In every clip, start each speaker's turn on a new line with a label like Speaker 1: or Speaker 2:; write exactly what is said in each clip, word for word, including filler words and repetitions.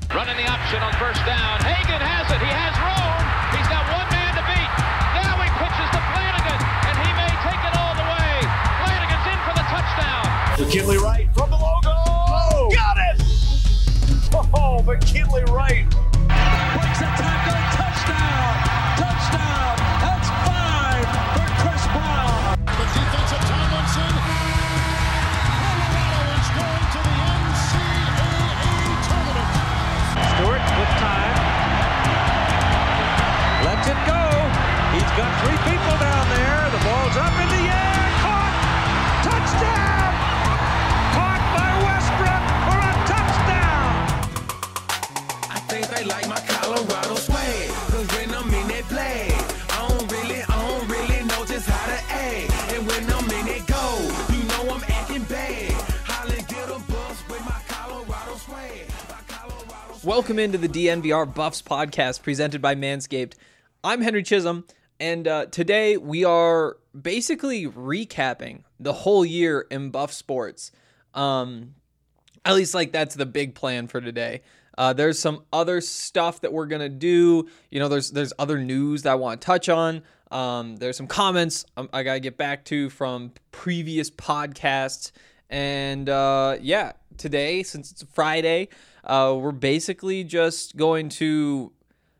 Speaker 1: Running the option on first down. Hagan has it. He has room. He's got one man to beat. Now he pitches to Flanagan, and he may take it all the way. Flanagan's in for the touchdown.
Speaker 2: McKinley Wright from the logo. Oh, got it! Oh, McKinley Wright.
Speaker 3: Breaks a tackle. Touchdown. Touchdown. That's five for Chris Brown.
Speaker 4: The defensive Tomlinson. Colorado is going to the N C double A tournament.
Speaker 3: Stewart with time. Lets it go. He's got three people down there. The ball's up in the air. Caught. Touchdown. Caught by Westbrook for a touchdown.
Speaker 5: I think they like my Colorado swag. Cause when I'm in that play, I don't really, I don't really know just how to act. And when I'm in it go, you know I'm acting bad. Holly get a bus with my Colorado swag. My Colorado swag.
Speaker 6: Welcome into the D N V R Buffs podcast presented by Manscaped. I'm Henry Chisholm, and uh, today we are basically recapping the whole year in Buff sports. Um, at least, like, that's the big plan for today. Uh, there's some other stuff that we're gonna do. You know, there's there's other news that I want to touch on. Um, there's some comments um, I gotta get back to from previous podcasts, and uh, yeah, today, since it's Friday, uh, we're basically just going to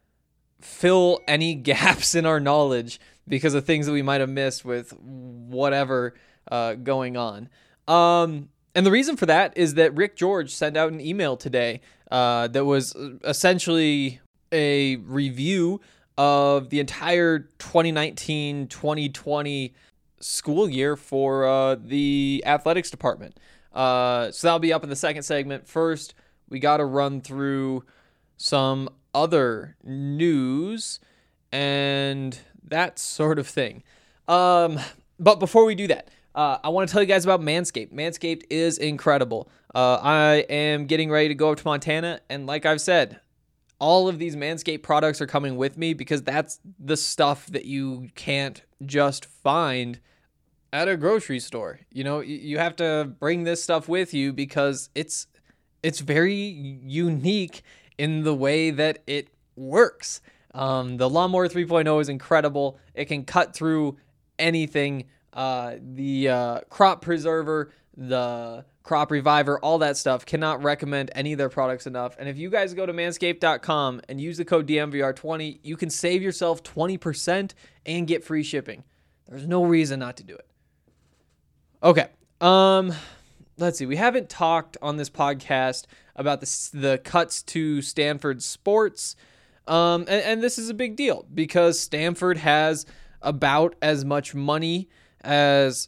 Speaker 6: fill any gaps in our knowledge because of things that we might have missed with whatever uh, going on. Um, and the reason for that is that Rick George sent out an email today uh, that was essentially a review of the entire twenty nineteen twenty twenty school year for uh, the athletics department. Uh, so that'll be up in the second segment. First, we got to run through some other news and that sort of thing. Um, but before we do that, uh, I want to tell you guys about Manscaped. Manscaped is incredible. Uh, I am getting ready to go up to Montana, and like I've said, all of these Manscaped products are coming with me because that's the stuff that you can't just find at a grocery store. You know, you have to bring this stuff with you because it's it's very unique in the way that it works. Um, the Lawnmower three point oh is incredible. It can cut through anything. Uh, the uh, Crop Preserver, the Crop Reviver, all that stuff. Cannot recommend any of their products enough. And if you guys go to manscaped dot com and use the code D M V R twenty, you can save yourself twenty percent and get free shipping. There's no reason not to do it. Okay. Um, let's see. We haven't talked on this podcast about the, the cuts to Stanford sports. Um, and, and this is a big deal because Stanford has about as much money as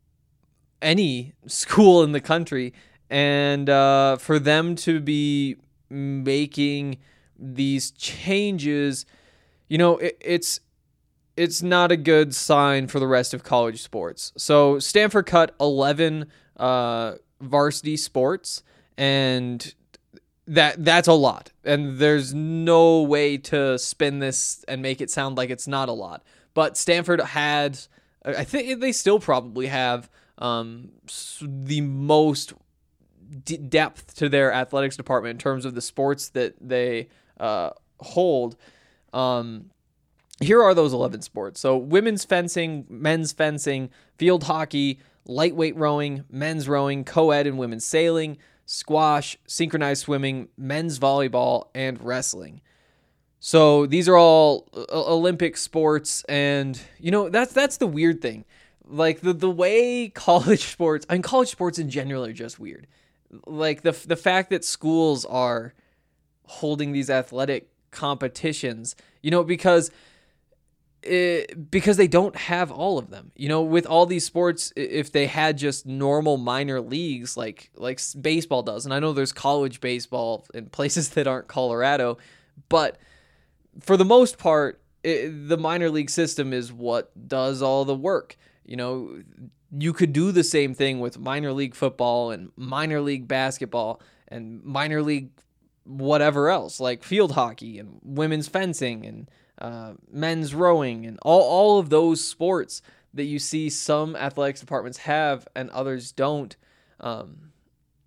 Speaker 6: any school in the country. And uh, for them to be making these changes, you know, it, it's it's not a good sign for the rest of college sports. So Stanford cut eleven uh, varsity sports, and that that's a lot. And there's no way to spin this and make it sound like it's not a lot. But Stanford had, I think they still probably have um, the most d- depth to their athletics department in terms of the sports that they uh, hold. Um, here are those eleven sports. So women's fencing, men's fencing, field hockey, lightweight rowing, men's rowing, co-ed and women's sailing, squash, synchronized swimming, men's volleyball, and wrestling. So these are all Olympic sports, and you know that's that's the weird thing. Like the the way college sports, I mean college sports in general are just weird. Like the the fact that schools are holding these athletic competitions, you know, because it, because they don't have all of them. You know, with all these sports, if they had just normal minor leagues like like baseball does, and I know there's college baseball in places that aren't Colorado, but for the most part, it, the minor league system is what does all the work. You know, you could do the same thing with minor league football and minor league basketball and minor league whatever else, like field hockey and women's fencing and uh, men's rowing and all, all of those sports that you see some athletics departments have and others don't. Um,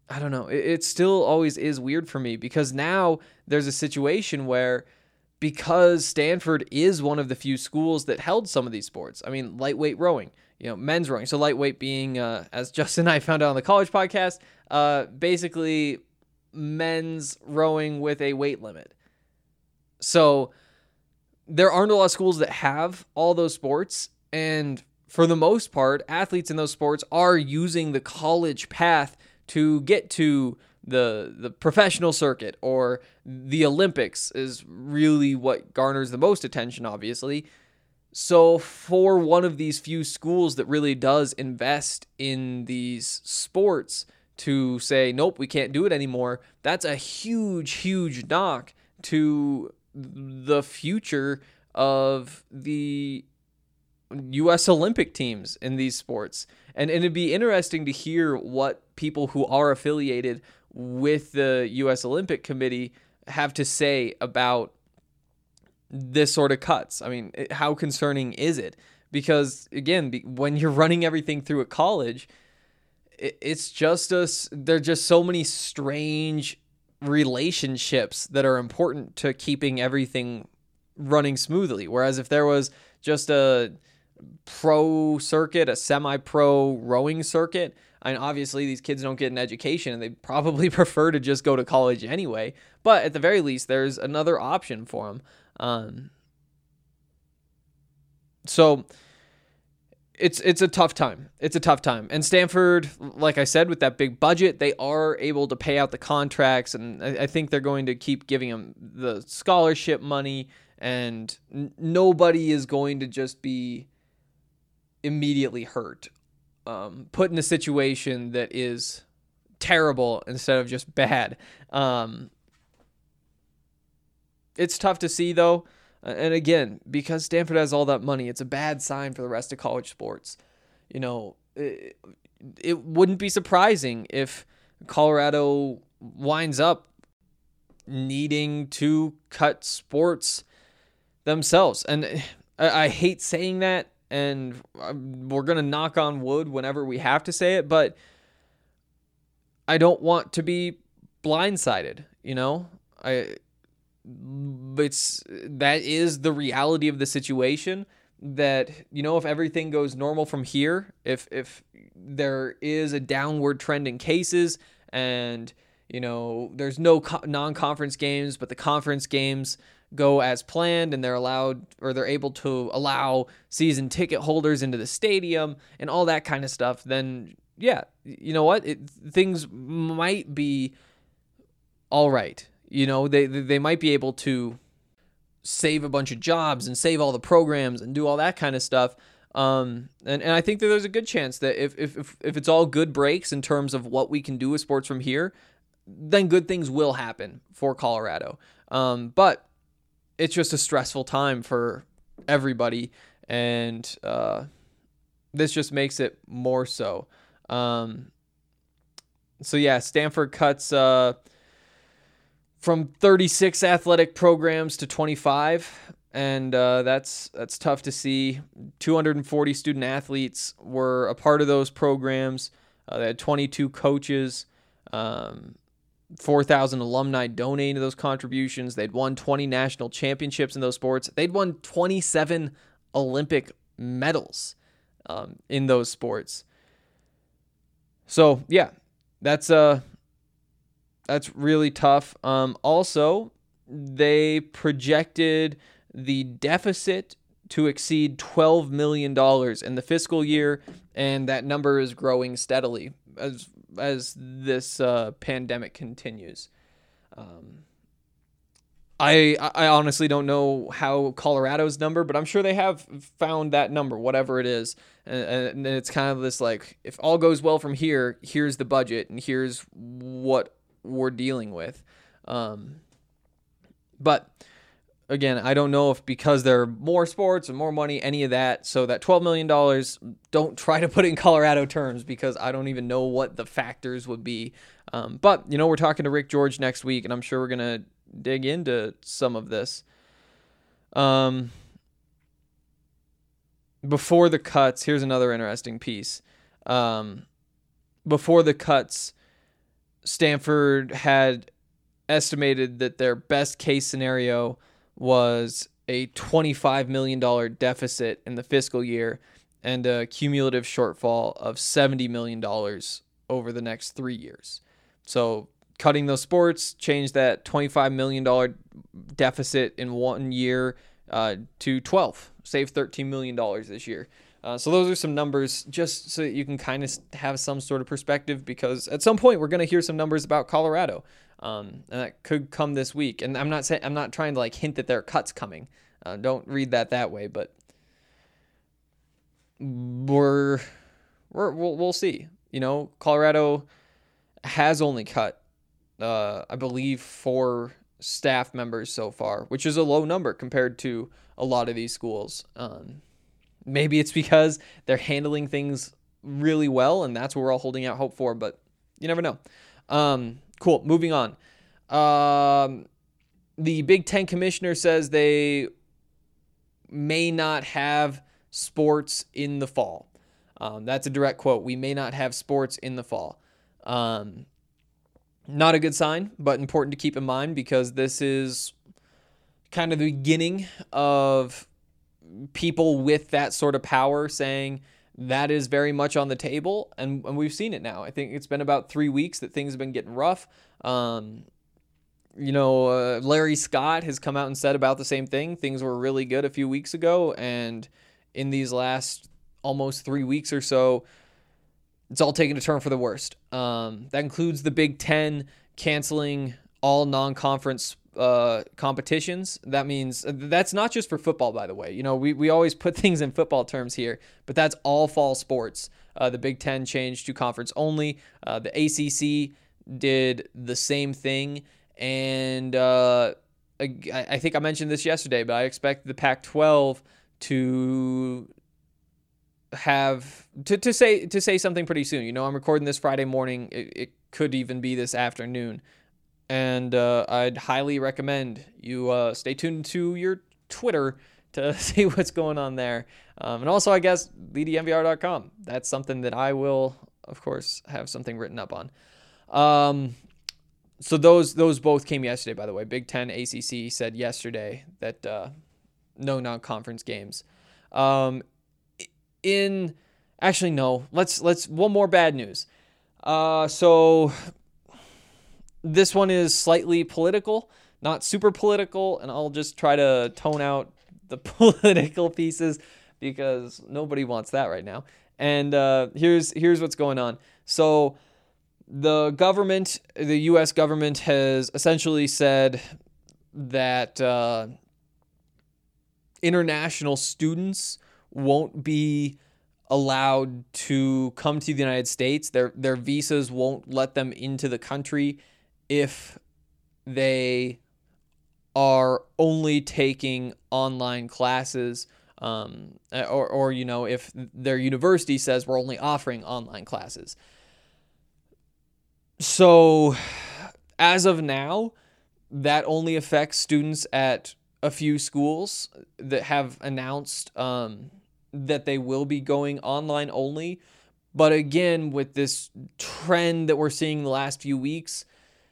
Speaker 6: I don't know. It, it still always is weird for me because now there's a situation where because Stanford is one of the few schools that held some of these sports. I mean, lightweight rowing, you know, men's rowing. So lightweight being, uh, as Justin and I found out on the college podcast, uh, basically men's rowing with a weight limit. So there aren't a lot of schools that have all those sports. And for the most part, athletes in those sports are using the college path to get to the the professional circuit, or the Olympics is really what garners the most attention, obviously. So for one of these few schools that really does invest in these sports to say, nope, we can't do it anymore, that's a huge, huge knock to the future of the U S Olympic teams in these sports. And, and it'd be interesting to hear what people who are affiliated with the U S Olympic Committee have to say about this sort of cuts. I mean, how concerning is it? Because again, when you're running everything through a college, it's just us. There're just so many strange relationships that are important to keeping everything running smoothly. Whereas if there was just a pro circuit, a semi-pro rowing circuit, I mean, obviously these kids don't get an education and they probably prefer to just go to college anyway. But at the very least, there's another option for them. Um, so it's it's a tough time. It's a tough time. And Stanford, like I said, with that big budget, they are able to pay out the contracts, and I, I think they're going to keep giving them the scholarship money, and n- nobody is going to just be immediately hurt, um, put in a situation that is terrible instead of just bad. Um, it's tough to see, though. And again, because Stanford has all that money, it's a bad sign for the rest of college sports. You know, it, it wouldn't be surprising if Colorado winds up needing to cut sports themselves. And I, I hate saying that, and we're going to knock on wood whenever we have to say it, but I don't want to be blindsided, you know? I... It's that is the reality of the situation, that, you know, if everything goes normal from here, if if there is a downward trend in cases and, you know, there's no co- non-conference games, but the conference games go as planned and they're allowed, or they're able to allow season ticket holders into the stadium and all that kind of stuff, then yeah, you know what? It, things might be all right. You know, they they might be able to save a bunch of jobs and save all the programs and do all that kind of stuff. Um, and, and I think that there's a good chance that if, if, if, if it's all good breaks in terms of what we can do with sports from here, then good things will happen for Colorado. Um, but it's just a stressful time for everybody. And uh, this just makes it more so. Um, so, yeah, Stanford cuts... Uh, from thirty-six athletic programs to twenty-five, and uh, that's that's tough to see. two hundred forty student athletes were a part of those programs. Uh, they had twenty-two coaches, um, four thousand alumni donating to those contributions. They'd won twenty national championships in those sports. They'd won twenty-seven Olympic medals um, in those sports. So, yeah, that's... Uh, That's really tough. Um, also, they projected the deficit to exceed twelve million dollars in the fiscal year, and that number is growing steadily as as this uh, pandemic continues. Um, I I honestly don't know how Colorado's number, but I'm sure they have found that number, whatever it is. And, and it's kind of this like, if all goes well from here, here's the budget, and here's what we're dealing with. Um, but again, I don't know if because there are more sports and more money, any of that. So that twelve million dollars, don't try to put it in Colorado terms, because I don't even know what the factors would be. Um, but, you know, we're talking to Rick George next week, and I'm sure we're going to dig into some of this. Um, before the cuts, here's another interesting piece. Um, before the cuts, Stanford had estimated that their best case scenario was a twenty-five million dollars deficit in the fiscal year and a cumulative shortfall of seventy million dollars over the next three years. So cutting those sports changed that twenty-five million dollars deficit in one year uh, to twelve, save thirteen million dollars this year. Uh, so those are some numbers just so that you can kind of have some sort of perspective, because at some point we're going to hear some numbers about Colorado. Um, and that could come this week. And I'm not saying, I'm not trying to like hint that there are cuts coming. Uh, don't read that that way, but we're, we're, we'll, we'll see. You know, Colorado has only cut, uh, I believe, four staff members so far, which is a low number compared to a lot of these schools. Um, maybe it's because they're handling things really well, and that's what we're all holding out hope for, but you never know. Um, cool. Moving on. Um, the Big Ten commissioner says they may not have sports in the fall. Um, that's a direct quote. We may not have sports in the fall. Um, not a good sign, but important to keep in mind, because this is kind of the beginning of people with that sort of power saying that is very much on the table. And, and we've seen it now. I think it's been about three weeks that things have been getting rough. Um, you know, uh, Larry Scott has come out and said about the same thing. Things were really good a few weeks ago, and in these last almost three weeks or so, it's all taken a turn for the worst. Um, that includes the Big Ten canceling all non-conference uh, competitions. That means that's not just for football, by the way. You know, we, we always put things in football terms here, but that's all fall sports. Uh, the Big Ten changed to conference only. Uh, the A C C did the same thing. And uh, I, I think I mentioned this yesterday, but I expect the Pac twelve to have to, to say to say something pretty soon. You know, I'm recording this Friday morning. It, it could even be this afternoon. And uh, I'd highly recommend you uh, stay tuned to your Twitter to see what's going on there. Um, and also, I guess, B D M V R dot com. That's something that I will, of course, have something written up on. Um, so those those both came yesterday, by the way. Big Ten, A C C said yesterday that uh, no non-conference games. Um, in actually, no. Let's let's one more bad news. Uh, so. This one is slightly political, not super political, and I'll just try to tone out the political pieces because nobody wants that right now. And uh, here's here's what's going on. So the government, the U S government, has essentially said that uh, international students won't be allowed to come to the United States. Their their visas won't let them into the country if they are only taking online classes, um, or, or, you know, if their university says we're only offering online classes. So as of now, that only affects students at a few schools that have announced um, that they will be going online only. But again, with this trend that we're seeing the last few weeks,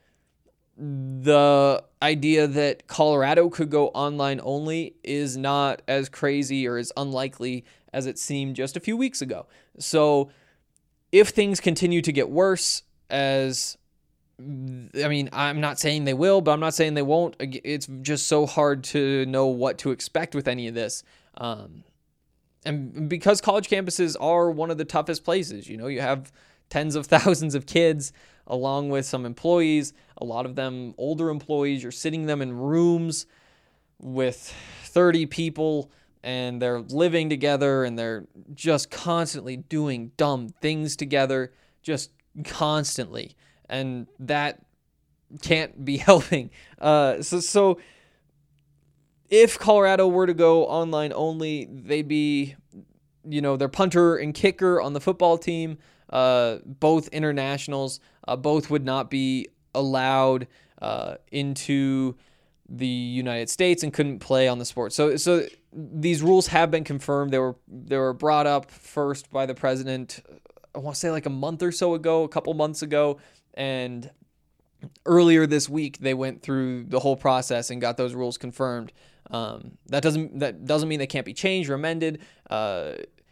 Speaker 6: the idea that Colorado could go online only is not as crazy or as unlikely as it seemed just a few weeks ago. So if things continue to get worse, as I mean, I'm not saying they will, but I'm not saying they won't. It's just so hard to know what to expect with any of this. Um, and because college campuses are one of the toughest places, you know, you have tens of thousands of kids along with some employees, a lot of them older employees. You're sitting them in rooms with thirty people, and they're living together, and they're just constantly doing dumb things together, just constantly. And that can't be helping. Uh, so, so if Colorado were to go online only, they'd be, you know, their punter and kicker on the football team, uh, both internationals, uh, both would not be allowed uh, into the United States and couldn't play on the sport. So, so these rules have been confirmed. They were they were brought up first by the president, I want to say like a month or so ago, a couple months ago, And earlier this week, they went through the whole process and got those rules confirmed. Um, that doesn't that doesn't mean they can't be changed or amended. Uh,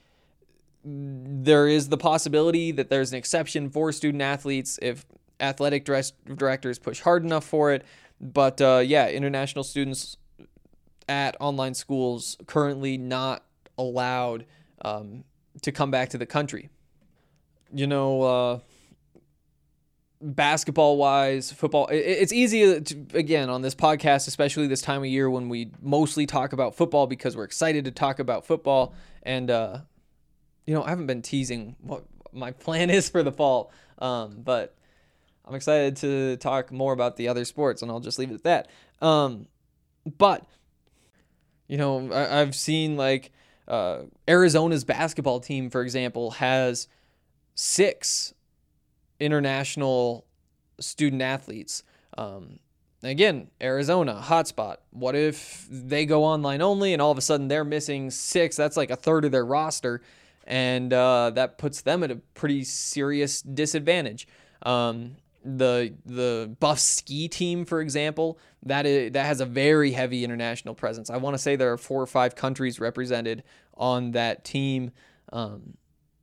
Speaker 6: there is the possibility that there's an exception for student athletes if athletic dress, directors push hard enough for it. But uh, yeah, international students at online schools currently not allowed um, to come back to the country. You know, uh, basketball wise, football, it, it's easy to, again, on this podcast, especially this time of year when we mostly talk about football because we're excited to talk about football. And, uh, you know, I haven't been teasing what my plan is for the fall, um, but I'm excited to talk more about the other sports, and I'll just leave it at that. Um, but, you know, I, I've seen like uh, Arizona's basketball team, for example, has six international student athletes. Um, again, Arizona, hotspot. What if they go online only and all of a sudden they're missing six? That's like a third of their roster, and uh, that puts them at a pretty serious disadvantage. Um, the the Buff ski team, for example, that is, that has a very heavy international presence. I want to say there are four or five countries represented on that team. Um,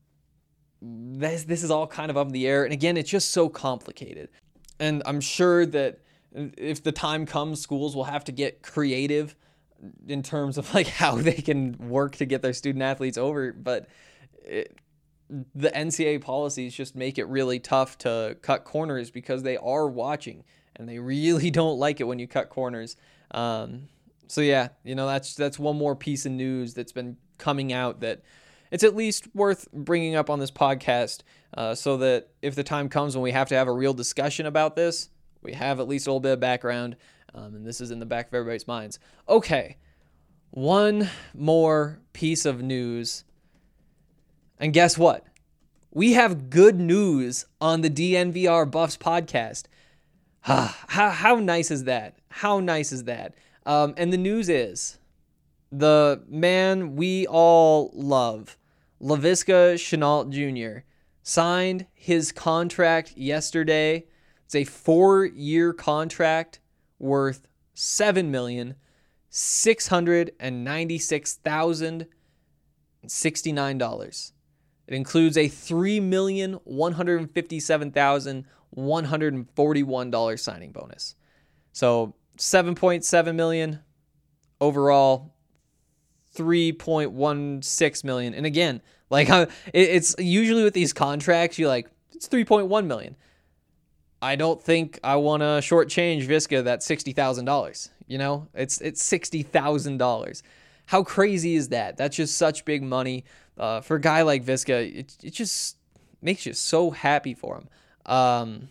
Speaker 6: this this is all kind of up in the air, and again, it's just so complicated. And I'm sure that if the time comes, schools will have to get creative in terms of like how they can work to get their student athletes over. But it, the N C double A policies just make it really tough to cut corners because they are watching and they really don't like it when you cut corners. Um, so yeah, you know, that's, that's one more piece of news that's been coming out that it's at least worth bringing up on this podcast, uh, so that if the time comes when we have to have a real discussion about this, we have at least a little bit of background, um, and this is in the back of everybody's minds. Okay, one more piece of news. And guess what? We have good news on the D N V R Buffs podcast. how, how nice is that? How nice is that? Um, and the news is the man we all love, Laviska Shenault Junior, signed his contract yesterday. It's a four-year contract worth seven million six hundred ninety-six thousand sixty-nine dollars. It includes a three million one hundred fifty-seven thousand one hundred forty-one dollars signing bonus. So seven point seven million dollars overall, three point one six million dollars. And again, like it's usually with these contracts, you're like, it's three point one million dollars. I don't think I want to shortchange Viska that sixty thousand dollars. You know, it's it's sixty thousand dollars. How crazy is that? That's just such big money. Uh, for a guy like Viska, it, it just makes you so happy for him. Um,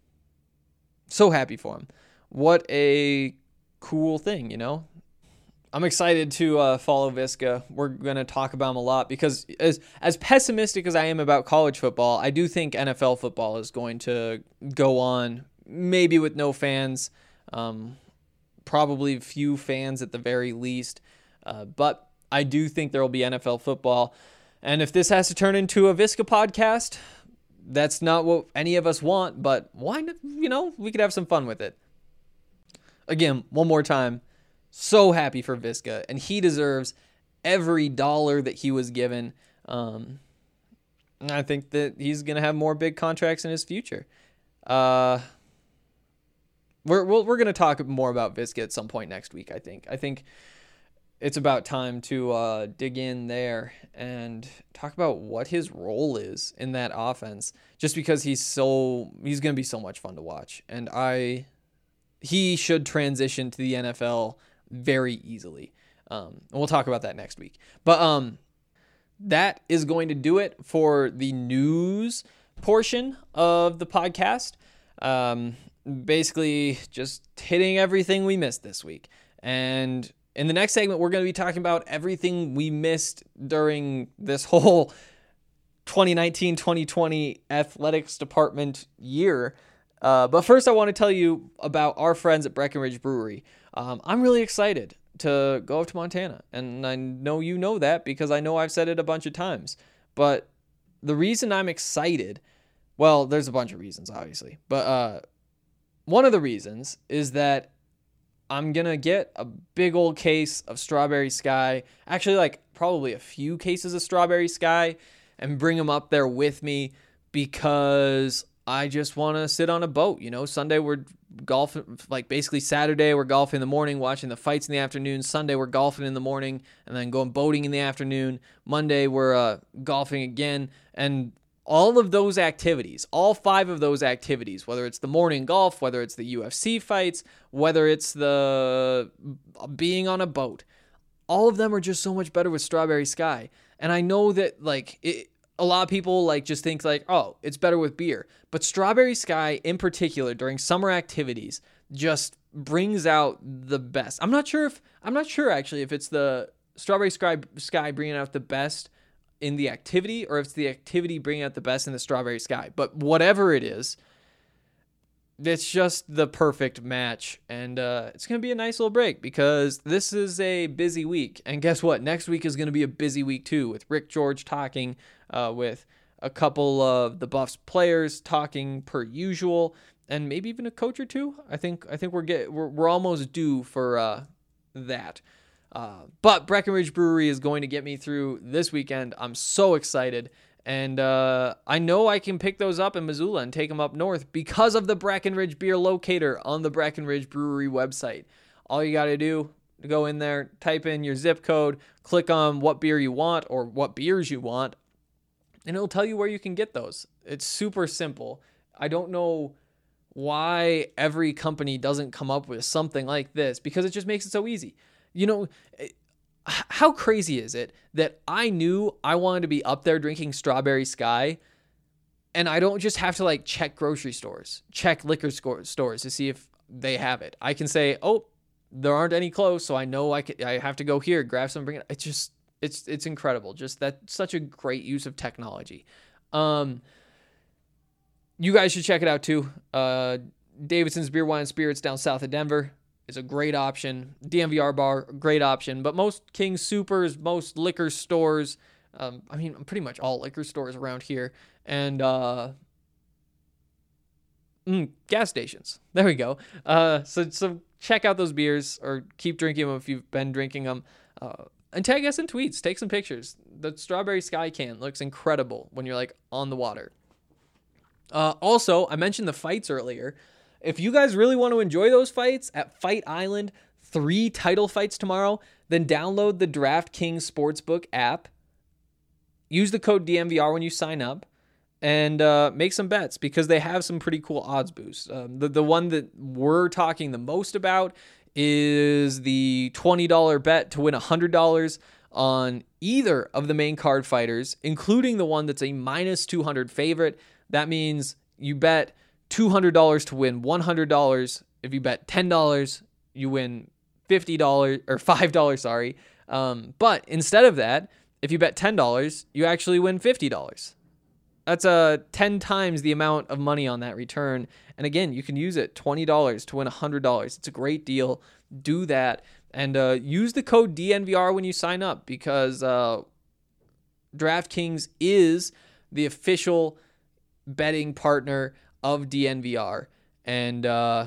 Speaker 6: so happy for him. What a cool thing, you know? I'm excited to uh, follow Viska. We're going to talk about him a lot because as as pessimistic as I am about college football, I do think N F L football is going to go on, maybe with no fans, um, probably few fans at the very least. Uh, but I do think there will be N F L football. And if this has to turn into a Viska podcast, that's not what any of us want, but why not? You know, we could have some fun with it. Again, one more time, so happy for Viska, and he deserves every dollar that he was given. Um, and I think that he's going to have more big contracts in his future. Uh, we're we're, we're going to talk more about Viska at some point next week, I think. I think it's about time to uh, dig in there and talk about what his role is in that offense. Just because he's so he's going to be so much fun to watch, and I he should transition to the N F L very easily. Um, and we'll talk about that next week. But um, that is going to do it for the news portion of the podcast. Um, basically, just hitting everything we missed this week, and in the next segment, we're going to be talking about everything we missed during this whole twenty nineteen twenty twenty athletics department year. Uh, but first, I want to tell you about our friends at Breckenridge Brewery. Um, I'm really excited to go up to Montana, and I know you know that because I know I've said it a bunch of times. But the reason I'm excited Well, there's a bunch of reasons, obviously. But uh, one of the reasons is that I'm going to get a big old case of Strawberry Sky. Actually, like probably a few cases of Strawberry Sky and bring them up there with me because I just want to sit on a boat. You know, Sunday we're golfing, like basically Saturday we're golfing in the morning, watching the fights in the afternoon. Sunday we're golfing in the morning and then going boating in the afternoon. Monday we're uh, golfing again. And all of those activities, all five of those activities, whether it's the morning golf, whether it's the U F C fights, whether it's the being on a boat, all of them are just so much better with Strawberry Sky. And I know that like it, a lot of people like just think like, oh, it's better with beer. But Strawberry Sky in particular during summer activities just brings out the best. I'm not sure if, I'm not sure actually if it's the Strawberry Sky, Sky bringing out the best in the activity or if it's the activity bringing out the best in the Strawberry Sky. But whatever it is, it's just the perfect match. And uh, it's going to be a nice little break because this is a busy week. And guess what? Next week is going to be a busy week too with Rick George talking uh, with a couple of the Buffs players talking per usual and maybe even a coach or two. I think I think we're get we're, we're almost due for uh, that. Uh, but Breckenridge Brewery is going to get me through this weekend. I'm so excited. And uh, I know I can pick those up in Missoula and take them up north because of the Breckenridge Beer Locator on the Breckenridge Brewery website. All you got to do, go in there, type in your zip code, click on what beer you want or what beers you want, and it'll tell you where you can get those. It's super simple. I don't know why every company doesn't come up with something like this because it just makes it so easy. You know, how crazy is it that I knew I wanted to be up there drinking Strawberry Sky and I don't just have to like check grocery stores, check liquor stores to see if they have it. I can say, oh, there aren't any close, so I know I can, I have to go here, grab some, bring it. It's just, it's, it's incredible. Just that's such a great use of technology. Um, you guys should check it out too. Uh, Davidson's Beer, Wine, and Spirits down south of Denver is a great option. D M V R Bar, great option. But most King Supers, most liquor stores, um, I mean, pretty much all liquor stores around here, and uh, mm, gas stations. There we go. Uh, so so check out those beers or keep drinking them if you've been drinking them. Uh, and tag us in tweets. Take some pictures. The Strawberry Sky can looks incredible when you're like on the water. Uh, also, I mentioned the fights earlier. If you guys really want to enjoy those fights at Fight Island, three title fights tomorrow, then download the DraftKings Sportsbook app. Use the code D M V R when you sign up and uh, make some bets because they have some pretty cool odds boosts. Um, the, the one that we're talking the most about is the twenty dollars bet to win one hundred dollars on either of the main card fighters, including the one that's a minus two hundred favorite. That means you bet two hundred dollars to win one hundred dollars. If you bet ten dollars, you win fifty dollars or five dollars, sorry. Um, but instead of that, if you bet ten dollars, you actually win fifty dollars. That's uh, ten times the amount of money on that return. And again, you can use it twenty dollars to win one hundred dollars. It's a great deal. Do that. And uh, use the code D N V R when you sign up because uh, DraftKings is the official betting partner of D N V R, and uh,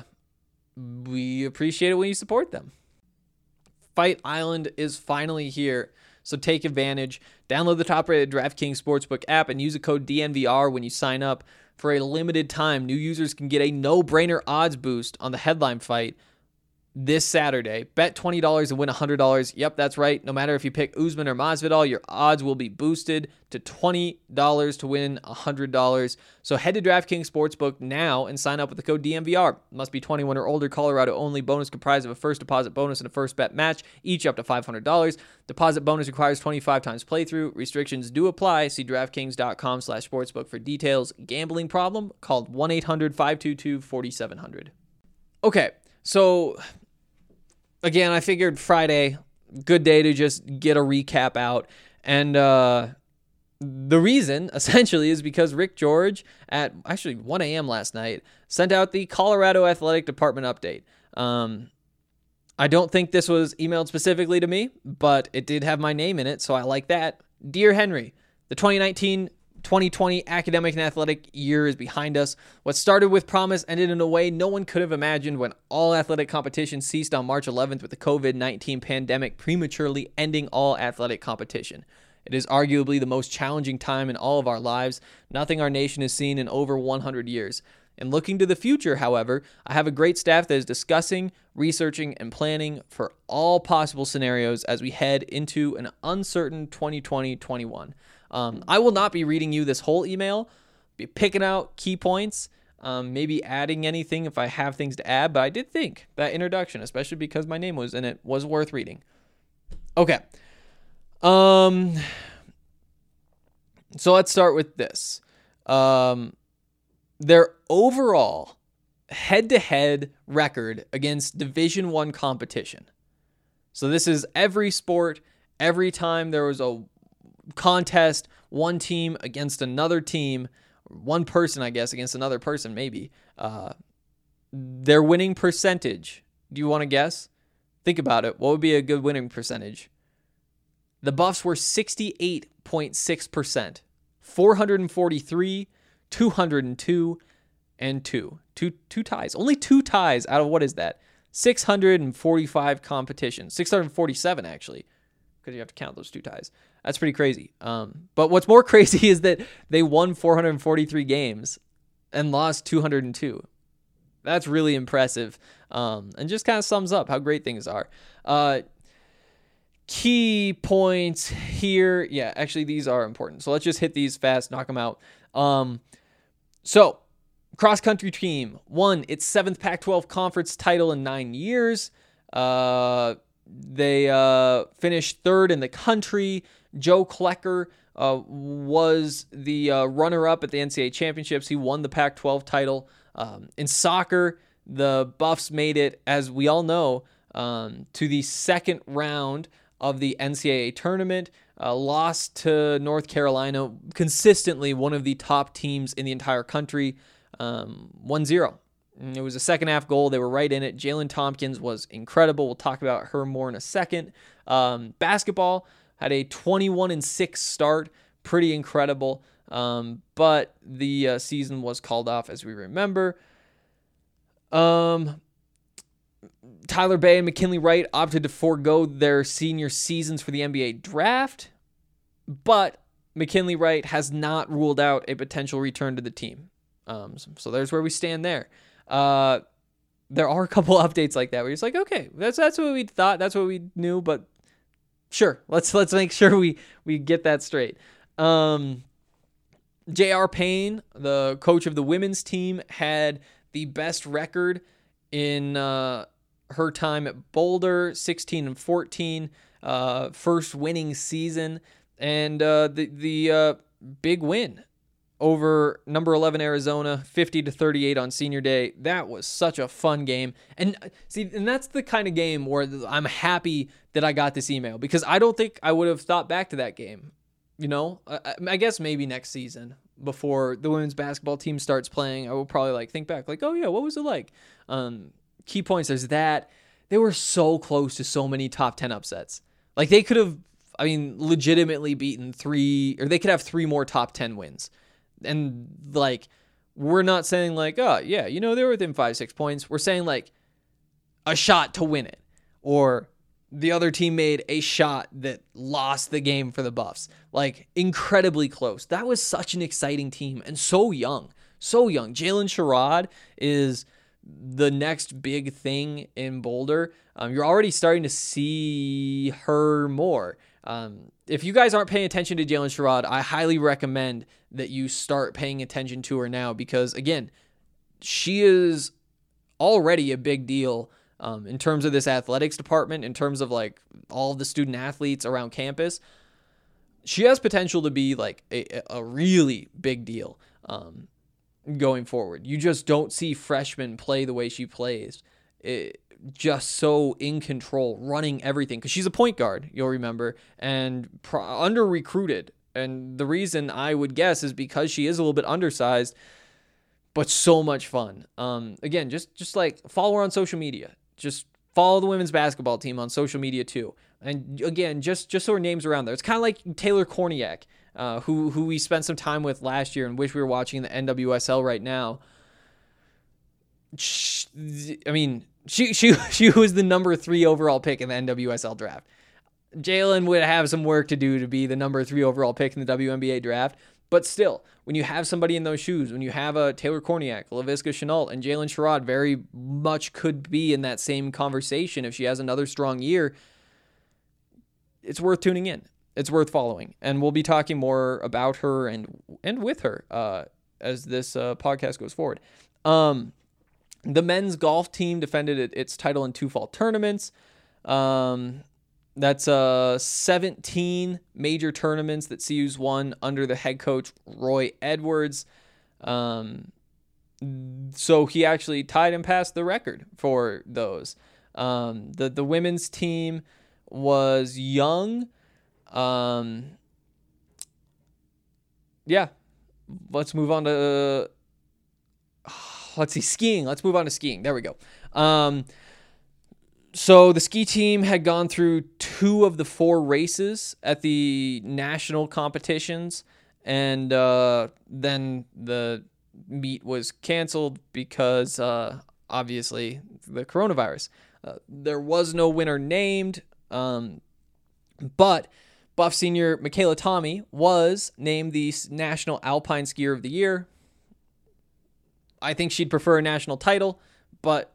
Speaker 6: we appreciate it when you support them. Fight Island is finally here, so take advantage. Download the top-rated DraftKings Sportsbook app and use the code D N V R when you sign up. For a limited time, new users can get a no-brainer odds boost on the headline fight this Saturday. Bet twenty dollars and win one hundred dollars. Yep, that's right. No matter if you pick Usman or Masvidal, your odds will be boosted to twenty dollars to win one hundred dollars. So head to DraftKings Sportsbook now and sign up with the code D M V R. Must be twenty-one or older. Colorado only. Bonus comprised of a first deposit bonus and a first bet match, each up to five hundred dollars. Deposit bonus requires twenty-five times playthrough. Restrictions do apply. See DraftKings.com slash sportsbook for details. Gambling problem? Call one eight hundred five two two four seven zero zero. Okay, so again, I figured Friday, good day to just get a recap out. And uh, the reason, essentially, is because Rick George, at actually one a.m. last night, sent out the Colorado Athletic Department update. Um, I don't think this was emailed specifically to me, but it did have my name in it, so I like that. Dear Henry, the twenty nineteen twenty twenty academic and athletic year is behind us. What started with promise ended in a way no one could have imagined when all athletic competition ceased on March eleventh with the covid nineteen pandemic prematurely ending all athletic competition. It is arguably the most challenging time in all of our lives, nothing our nation has seen in over one hundred years. And looking to the future, however, I have a great staff that is discussing, researching, and planning for all possible scenarios as we head into an uncertain twenty twenty twenty-one. Um, I will not be reading you this whole email, be picking out key points, um, maybe adding anything if I have things to add, but I did think that introduction, especially because my name was in it, was worth reading. Okay. Um. So let's start with this. Um, their overall head-to-head record against Division One competition. So this is every sport, every time there was a contest, one team against another team, one person, I guess, against another person, maybe. Uh, their winning percentage. Do you want to guess? Think about it. What would be a good winning percentage? The Buffs were sixty-eight point six percent. four hundred forty-three, two hundred two, and two. Two, two ties. Only two ties out of what is that? six hundred forty-five competitions. six hundred forty-seven, actually, because you have to count those two ties. That's pretty crazy. Um, but what's more crazy is that they won four hundred forty-three games and lost two hundred two. That's really impressive, um, and just kind of sums up how great things are. Uh, key points here. Yeah, actually, these are important. So let's just hit these fast, knock them out. Um, so, cross-country team won its seventh Pac twelve conference title in nine years. Uh, they uh, finished third in the country. Joe Klecker uh, was the uh, runner-up at the N C double A championships. He won the Pac twelve title. Um, in soccer, the Buffs made it, as we all know, um, to the second round of the N C double A tournament. Uh, lost to North Carolina, consistently one of the top teams in the entire country, um, one zero. It was a second half goal. They were right in it. Jalen Tompkins was incredible. We'll talk about her more in a second. Um, basketball had a twenty-one and six start. Pretty incredible. Um, but the uh, season was called off, as we remember. Um, Tyler Bay and McKinley Wright opted to forego their senior seasons for the N B A draft, but McKinley Wright has not ruled out a potential return to the team. Um, so, so there's where we stand there. Uh, there are a couple updates like that where it's like, okay, that's that's what we thought, that's what we knew, but sure, let's let's make sure we we get that straight. Um, J R. Payne, the coach of the women's team, had the best record in uh, her time at Boulder, sixteen and fourteen, uh, first winning season, and uh, the the uh, big win over number eleven Arizona, fifty to thirty-eight on senior day. That was such a fun game. And see, and that's the kind of game where I'm happy that I got this email, because I don't think I would have thought back to that game. You know, I, I guess maybe next season before the women's basketball team starts playing, I will probably like think back like, oh yeah, what was it like? Um, key points. There's that. They were so close to so many top ten upsets. Like they could have, I mean, legitimately beaten three, or they could have three more top ten wins. And like, we're not saying like, oh yeah, you know, they were within five, six points. We're saying like a shot to win it, or the other team made a shot that lost the game for the Buffs. Like, incredibly close. That was such an exciting team, and so young. So young. Jalen Sherrod is the next big thing in Boulder. Um, you're already starting to see her more. Um, if you guys aren't paying attention to Jalen Sherrod, I highly recommend that you start paying attention to her now, because, again, she is already a big deal Um, in terms of this athletics department, in terms of like all the student athletes around campus. She has potential to be like a, a really big deal um, going forward. You just don't see freshmen play the way she plays. It, just so in control, running everything, because she's a point guard, you'll remember, and pro- under recruited. And the reason I would guess is because she is a little bit undersized, but so much fun. Um, again, just just like follow her on social media. Just follow the women's basketball team on social media too. And again, just, just so her name's around there. It's kind of like Taylor Korniak uh, who who we spent some time with last year and wish we were watching the N W S L right now. She, I mean, she she she was the number three overall pick in the N W S L draft. Jalen would have some work to do to be the number three overall pick in the W N B A draft. But still, when you have somebody in those shoes, when you have a Taylor Korniak, Laviska Shenault, and Jalen Sherrod very much could be in that same conversation if she has another strong year, it's worth tuning in. It's worth following. And we'll be talking more about her and and with her uh, as this uh, podcast goes forward. Um, the men's golf team defended it, its title in two fall tournaments. Um... That's uh seventeen major tournaments that C U's won under the head coach Roy Edwards. Um, so he actually tied and passed the record for those. Um, the the women's team was young. Um, yeah, let's move on to uh, let's see skiing. Let's move on to skiing. There we go. Um. So the ski team had gone through two of the four races at the national competitions, and uh, then the meet was canceled because, uh, obviously, the coronavirus. Uh, there was no winner named, um, but Buff senior Michaela Tommy was named the National Alpine Skier of the Year. I think she'd prefer a national title, but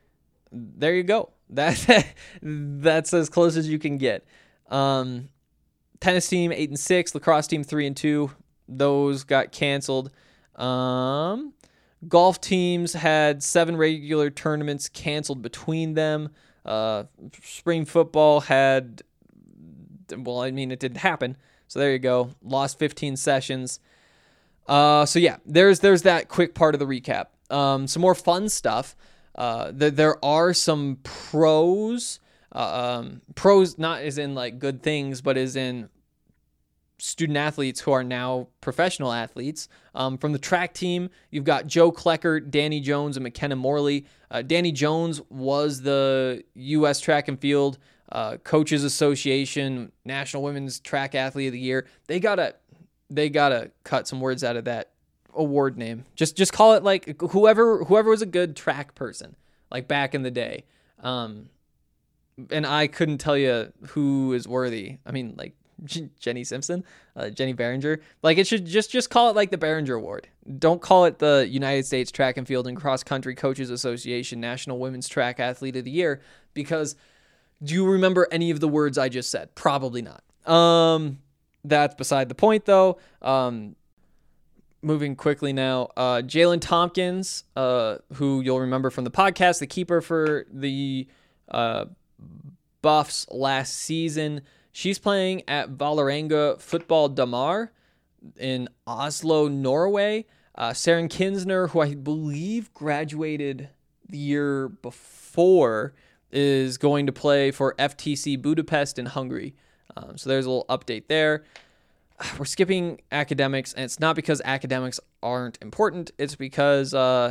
Speaker 6: there you go. That that's as close as you can get. Um, tennis team eight and six, lacrosse team three and two. Those got canceled. Um, golf teams had seven regular tournaments canceled between them. Uh, spring football had, well, I mean, it didn't happen. So there you go. Lost fifteen sessions. Uh, so yeah, there's there's that quick part of the recap. Um, some more fun stuff. Uh, th- there are some pros, uh, um, pros not as in like good things, but as in student athletes who are now professional athletes. Um, from the track team, you've got Joe Klecker, Danny Jones, and McKenna Morley. Uh, Danny Jones was the U S Track and Field uh, Coaches Association National Women's Track Athlete of the Year. They gotta, they gotta cut some words out of that award name. Just just call it like whoever whoever was a good track person like back in the day. Um, and I couldn't tell you who is worthy. I mean, like Jenny Simpson, uh, Jenny Behringer. Like it should just just call it like the Behringer Award. Don't call it the United States Track and Field and Cross Country Coaches Association National Women's Track Athlete of the Year, because do you remember any of the words I just said? Probably not. Um, that's beside the point though. Um, Moving quickly now, uh, Jalen Tompkins, uh, who you'll remember from the podcast, the keeper for the uh, Buffs last season. She's playing at Vålerenga Football Damar in Oslo, Norway. Uh, Saren Kinsner, who I believe graduated the year before, is going to play for F T C Budapest in Hungary. Um, so there's a little update there. We're skipping academics, and it's not because academics aren't important. It's because uh,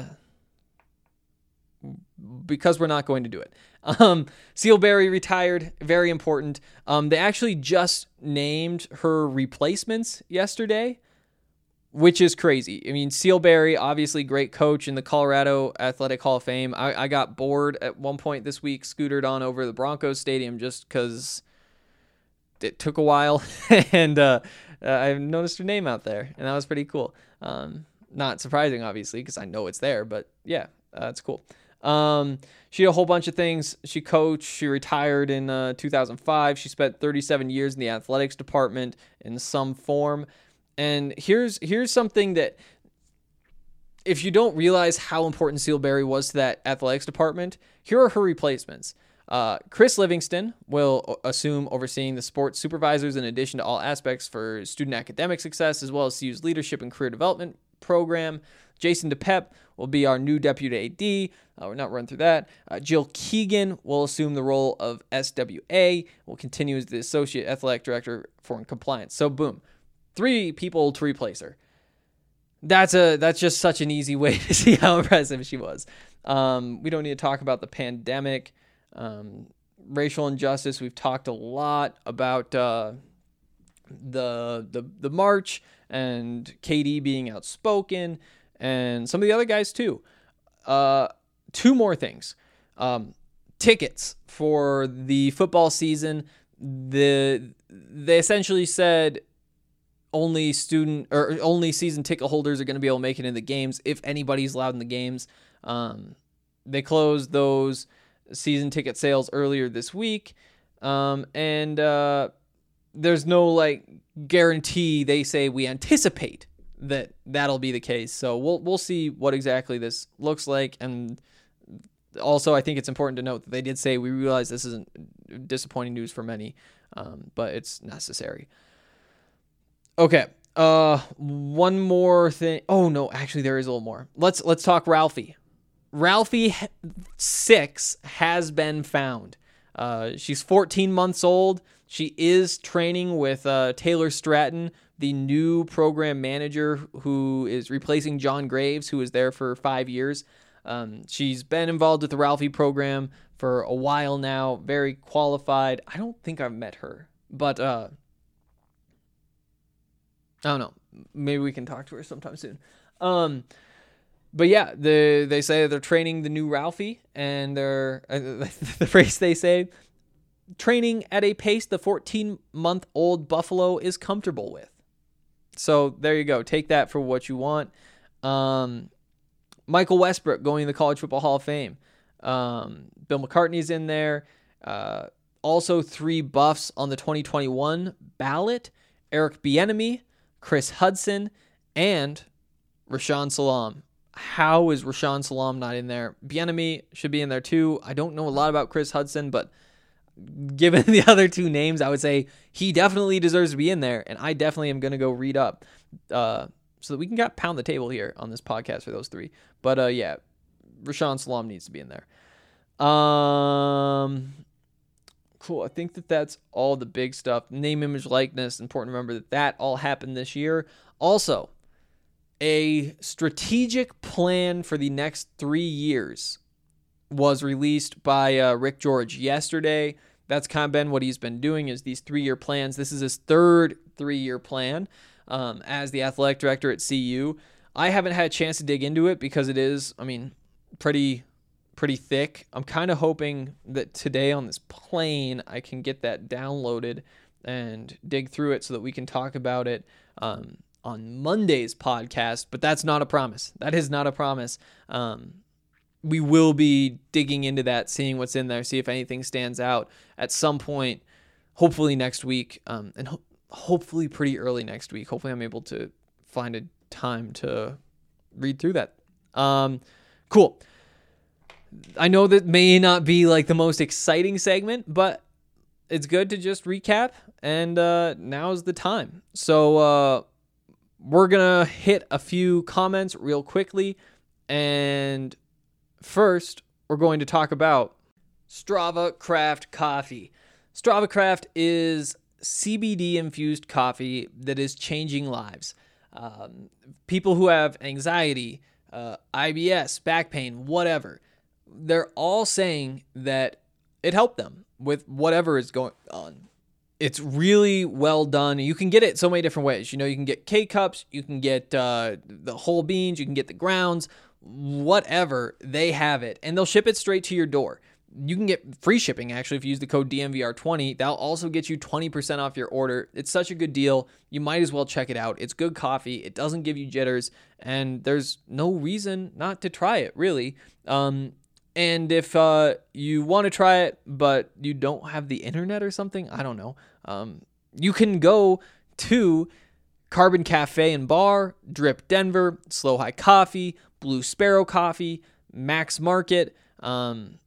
Speaker 6: because we're not going to do it. Um, Seal Berry retired, very important. Um, they actually just named her replacements yesterday, which is crazy. I mean, Seal Berry, obviously great coach in the Colorado Athletic Hall of Fame. I, I got bored at one point this week, scootered on over the Broncos Stadium just because it took a while, and uh, uh, I noticed her name out there, and that was pretty cool. Um, not surprising, obviously, because I know it's there, but yeah, uh, it's cool. Um, she did a whole bunch of things. She coached. She retired in uh, two thousand five. She spent thirty-seven years in the athletics department in some form. And here's here's something that, if you don't realize how important Seal Berry was to that athletics department, here are her replacements. Uh, Chris Livingston will assume overseeing the sports supervisors in addition to all aspects for student academic success, as well as C U's leadership and career development program. Jason DePep will be our new deputy A D. Uh, we're not running through that. Uh, Jill Keegan will assume the role of S W A, will continue as the associate athletic director for compliance. So boom, three people to replace her. That's a that's just such an easy way to see how impressive she was. Um, we don't need to talk about the pandemic. Um, racial injustice. We've talked a lot about uh, the the the march and K D being outspoken and some of the other guys too. Uh, two more things. Um, tickets for the football season. The they essentially said only student or only season ticket holders are going to be able to make it in the games if anybody's allowed in the games. Um, they closed those season ticket sales earlier this week, um, and uh, there's no like guarantee. They say we anticipate that that'll be the case. So we'll we'll see what exactly this looks like. And also, I think it's important to note that they did say we realize this isn't disappointing news for many, um, but it's necessary. Okay. Uh, one more thing. Oh no, actually there is a little more. Let's let's talk Ralphie. Ralphie six has been found. Uh, she's fourteen months old. She is training with uh, Taylor Stratton, the new program manager who is replacing John Graves, who was there for five years. Um, she's been involved with the Ralphie program for a while now. Very qualified. I don't think I've met her, but uh, I don't know. Maybe we can talk to her sometime soon. Um, but yeah, the, they say they're training the new Ralphie, and they're uh, the phrase they say, training at a pace the fourteen-month-old Buffalo is comfortable with. So there you go. Take that for what you want. Um, Michael Westbrook going to the College Football Hall of Fame. Um, Bill McCartney's in there. Uh, also three Buffs on the twenty twenty-one ballot. Eric Bieniemy, Chris Hudson, and Rashaan Salaam. How is Rashaan Salaam not in there? Bieniemy should be in there too. I don't know a lot about Chris Hudson, but given the other two names, I would say he definitely deserves to be in there, and I definitely am going to go read up uh, so that we can get pound the table here on this podcast for those three. But uh, yeah, Rashaan Salaam needs to be in there. Um, cool. I think that that's all the big stuff. Name, image, likeness. Important to remember that that all happened this year. Also, a strategic plan for the next three years was released by uh, Rick George yesterday. That's kind of been what he's been doing, is these three-year plans. This is his third three-year plan um, as the athletic director at C U. I haven't had a chance to dig into it because it is, I mean, pretty pretty thick. I'm kind of hoping that today on this plane I can get that downloaded and dig through it so that we can talk about it um, on Monday's podcast, but that's not a promise. That is not a promise. Um, we will be digging into that, seeing what's in there, see if anything stands out at some point, hopefully next week, um, and ho- hopefully pretty early next week. Hopefully I'm able to find a time to read through that. Um, cool. I know that may not be like the most exciting segment, but it's good to just recap, and uh, now's the time. So uh, we're going to hit a few comments real quickly, and first, we're going to talk about Strava Craft Coffee. Strava Craft is C B D-infused coffee that is changing lives. Um, people who have anxiety, uh, I B S, back pain, whatever, they're all saying that it helped them with whatever is going on. It's really well done. You can get it so many different ways. You know, you can get K-Cups, you can get uh, the whole beans, you can get the grounds, whatever, they have it, and they'll ship it straight to your door. You can get free shipping, actually, if you use the code D M V R twenty. That'll also get you twenty percent off your order. It's such a good deal. You might as well check it out. It's good coffee. It doesn't give you jitters, and there's no reason not to try it, really. Um, and if uh, you want to try it, but you don't have the internet or something, I don't know, um, you can go to Carbon Cafe and Bar, Drip Denver, Slow High Coffee, Blue Sparrow Coffee, Max Market, um,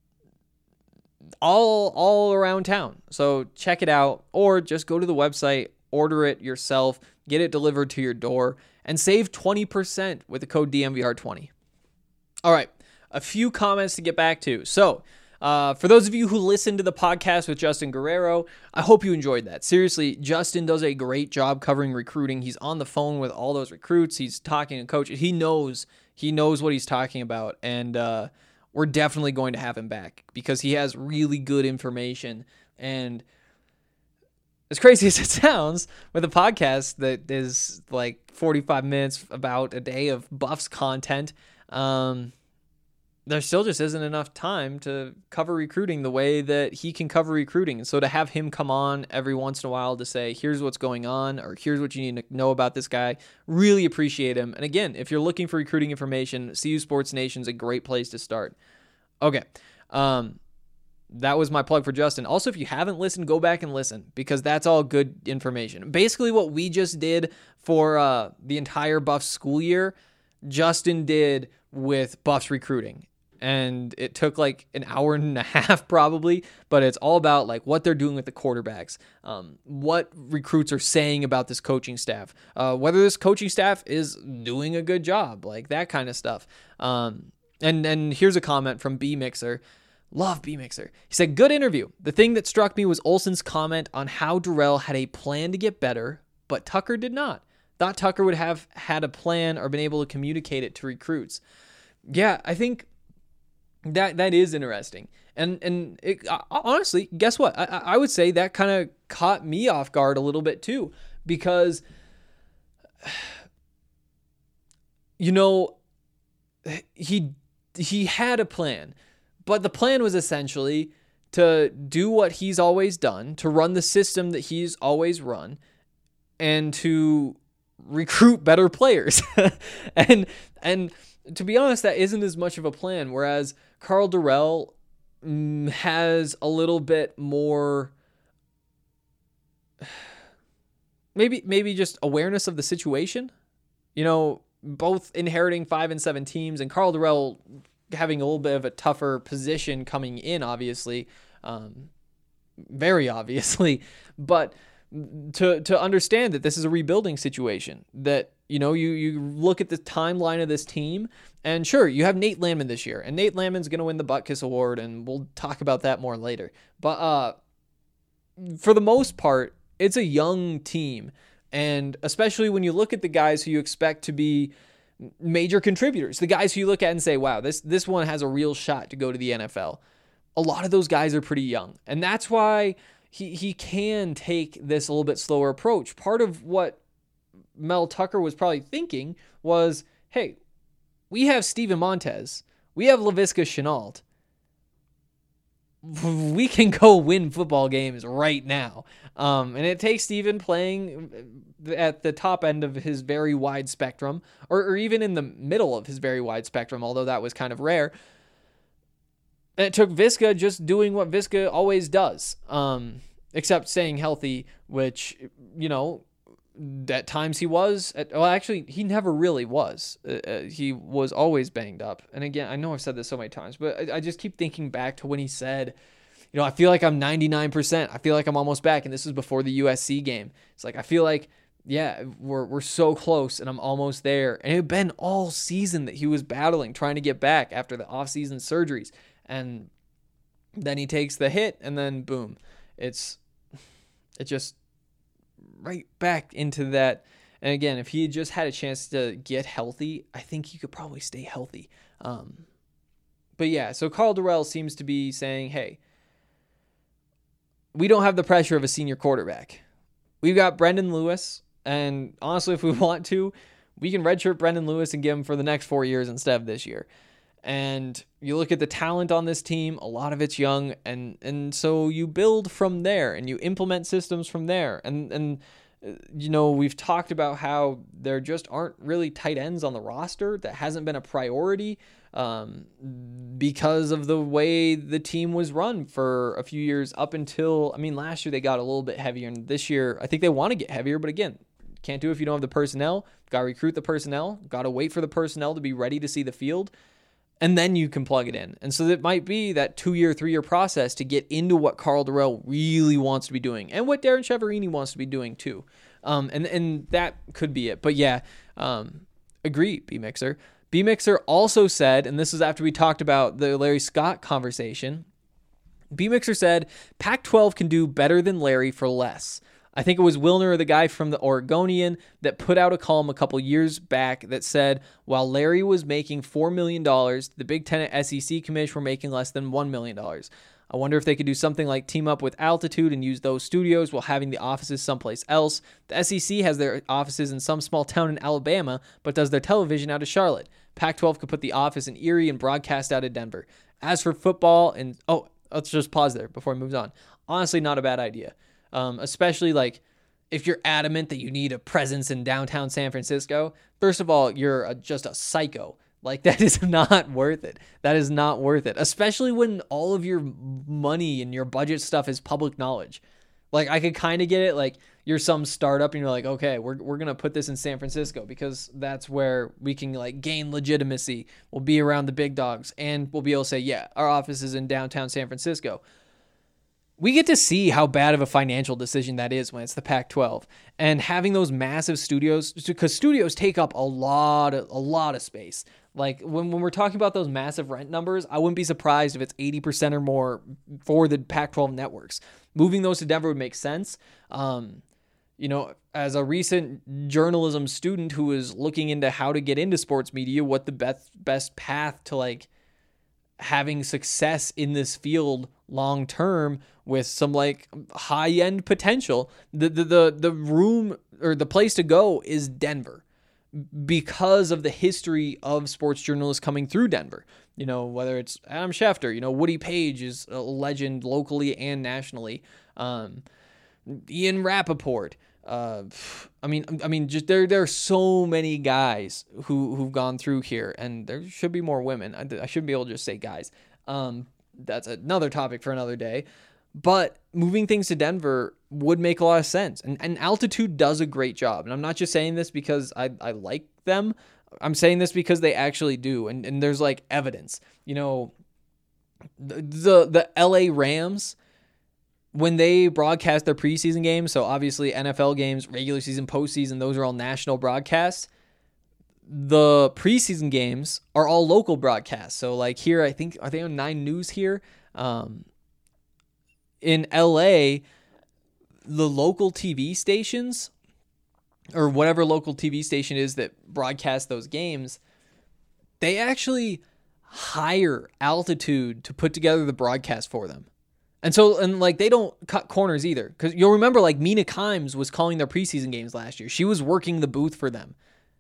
Speaker 6: all all around town. So check it out, or just go to the website, order it yourself, get it delivered to your door, and save twenty percent with the code D M V R twenty. All right, a few comments to get back to. So uh, for those of you who listened to the podcast with Justin Guerrero, I hope you enjoyed that. Seriously, Justin does a great job covering recruiting. He's on the phone with all those recruits. He's talking to coaches. He knows he knows what he's talking about, and uh, we're definitely going to have him back because he has really good information. And as crazy as it sounds, with a podcast that is like forty-five minutes about a day of Buffs content, um, there still just isn't enough time to cover recruiting the way that he can cover recruiting. And so to have him come on every once in a while to say, here's what's going on, or here's what you need to know about this guy, really appreciate him. And again, if you're looking for recruiting information, C U Sports Nation's a great place to start. Okay. Um, that was my plug for Justin. Also, if you haven't listened, go back and listen, because that's all good information. Basically what we just did for uh, the entire Buffs school year, Justin did with Buffs recruiting. And it took like an hour and a half probably, but it's all about like what they're doing with the quarterbacks, um, what recruits are saying about this coaching staff, uh, whether this coaching staff is doing a good job, like that kind of stuff. Um, and, and here's a comment from B Mixer. Love B Mixer. He said, good interview. The thing that struck me was Olson's comment on how Dorrell had a plan to get better, but Tucker did not. Thought Tucker would have had a plan or been able to communicate it to recruits. Yeah, I think That that is interesting, and and it, uh, honestly, guess what? I I would say that kind of caught me off guard a little bit too, because you know he he had a plan, but the plan was essentially to do what he's always done, to run the system that he's always run, and to recruit better players, and and. To be honest, that isn't as much of a plan, whereas Karl Dorrell mm, has a little bit more, maybe maybe just awareness of the situation. You know, both inheriting five and seven teams, and Karl Dorrell having a little bit of a tougher position coming in, obviously, um, very obviously, but to to understand that this is a rebuilding situation, that you know, you you look at the timeline of this team, and sure, you have Nate Landman this year, and Nate Landman's going to win the Butkus Award, and we'll talk about that more later. But uh, for the most part, it's a young team, and especially when you look at the guys who you expect to be major contributors, the guys who you look at and say, wow, this this one has a real shot to go to the N F L. A lot of those guys are pretty young, and that's why he he can take this a little bit slower approach. Part of what Mel Tucker was probably thinking was, hey, we have Steven Montez, we have Laviska Shenault, we can go win football games right now. Um, and it takes Steven playing at the top end of his very wide spectrum, or, or even in the middle of his very wide spectrum, although that was kind of rare. And it took Viska just doing what Viska always does, um, except staying healthy, which, you know, at times he was, at, well, actually, he never really was. Uh, he was always banged up. And again, I know I've said this so many times, but I, I just keep thinking back to when he said, you know, I feel like I'm ninety-nine percent. I feel like I'm almost back. And this was before the U S C game. It's like, I feel like, yeah, we're we're so close and I'm almost there. And it had been all season that he was battling, trying to get back after the off-season surgeries. And then he takes the hit, and then boom, it's it just right back into that. And again, if he had just had a chance to get healthy, I think he could probably stay healthy. Um, but yeah, so Karl Dorrell seems to be saying, hey, we don't have the pressure of a senior quarterback. We've got Brendan Lewis, and honestly, if we want to, we can redshirt Brendan Lewis and give him for the next four years instead of this year. And you look at the talent on this team, a lot of it's young, and and so you build from there, and you implement systems from there. And, and you know, we've talked about how there just aren't really tight ends on the roster. That hasn't been a priority um, because of the way the team was run for a few years up until, I mean, last year they got a little bit heavier, and this year I think they want to get heavier, but again, can't do it if you don't have the personnel. Got to recruit the personnel, got to wait for the personnel to be ready to see the field. And then you can plug it in. And so it might be that two-year, three-year process to get into what Karl Dorrell really wants to be doing and what Darren Chiaverini wants to be doing too. Um, and, and that could be it. But yeah, um, agree, B-Mixer. B-Mixer also said, and this is after we talked about the Larry Scott conversation, B-Mixer said, Pac twelve can do better than Larry for less. I think it was Wilner, the guy from the Oregonian, that put out a column a couple years back that said, while Larry was making four million dollars, the Big Ten and S E C commish were making less than one million dollars. I wonder if they could do something like team up with Altitude and use those studios while having the offices someplace else. The S E C has their offices in some small town in Alabama, but does their television out of Charlotte. Pac twelve could put the office in Erie and broadcast out of Denver. As for football, and oh, let's just pause there before it moves on. Honestly, not a bad idea. Um, especially like if you're adamant that you need a presence in downtown San Francisco. First of all, you're a, just a psycho. Like, that is not worth it. That is not worth it. Especially when all of your money and your budget stuff is public knowledge. Like, I could kind of get it. Like, you're some startup and you're like, okay, we're we're going to put this in San Francisco because that's where we can, like, gain legitimacy. We'll be around the big dogs and we'll be able to say, yeah, our office is in downtown San Francisco. We get to see how bad of a financial decision that is when it's the Pac twelve. And having those massive studios, because studios take up a lot of, a lot of space. Like, when, when we're talking about those massive rent numbers, I wouldn't be surprised if it's eighty percent or more for the Pac twelve networks. Moving those to Denver would make sense. Um, you know, as a recent journalism student who is looking into how to get into sports media, what the best best path to, like, having success in this field long term with some, like, high end potential, the, the the the room or the place to go is Denver, because of the history of sports journalists coming through Denver. You know, whether it's Adam Schefter, you know, Woody Page is a legend locally and nationally. Um, Ian Rappaport. Uh, I mean, I mean, just there, there are so many guys who, who've gone through here, and there should be more women. I, I shouldn't be able to just say guys. Um, that's another topic for another day. But moving things to Denver would make a lot of sense. And, and Altitude does a great job. And I'm not just saying this because I, I like them. I'm saying this because they actually do. And, and there's, like, evidence. You know, the, the, the L A Rams, when they broadcast their preseason games, so obviously N F L games, regular season, postseason, those are all national broadcasts. The preseason games are all local broadcasts. So, like, here, I think, are they on Nine News here? Um, in L A, the local T V stations, or whatever local T V station is that broadcasts those games, they actually hire Altitude to put together the broadcast for them. And so, and like, they don't cut corners either. Because you'll remember, like, Mina Kimes was calling their preseason games last year. She was working the booth for them.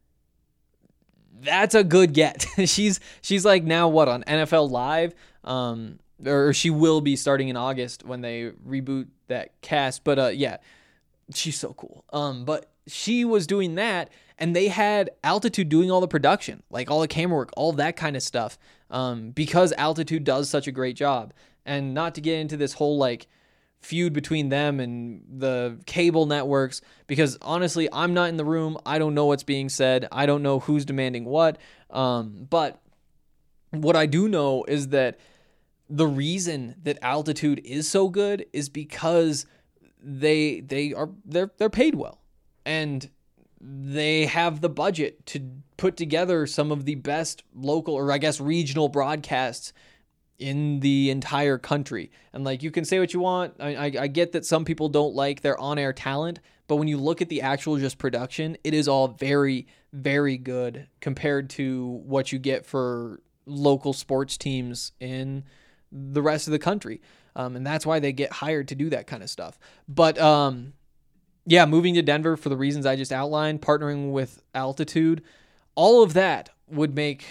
Speaker 6: That's a good get. she's, she's like now what, on N F L Live? Um, or she will be starting in August when they reboot that cast. But uh, yeah, she's so cool. Um, but she was doing that, and they had Altitude doing all the production, like all the camera work, all that kind of stuff, um, because Altitude does such a great job. And not to get into this whole, like, feud between them and the cable networks, because honestly, I'm not in the room. I don't know what's being said. I don't know who's demanding what. Um, but what I do know is that the reason that Altitude is so good is because they they are they're they're paid well, and they have the budget to put together some of the best local, or I guess regional, broadcasts in the entire country. And, like, you can say what you want. I, I, I get that some people don't like their on-air talent, but when you look at the actual just production, it is all very, very good compared to what you get for local sports teams in the rest of the country. Um, and that's why they get hired to do that kind of stuff. But, um, yeah, moving to Denver for the reasons I just outlined, partnering with Altitude, all of that would make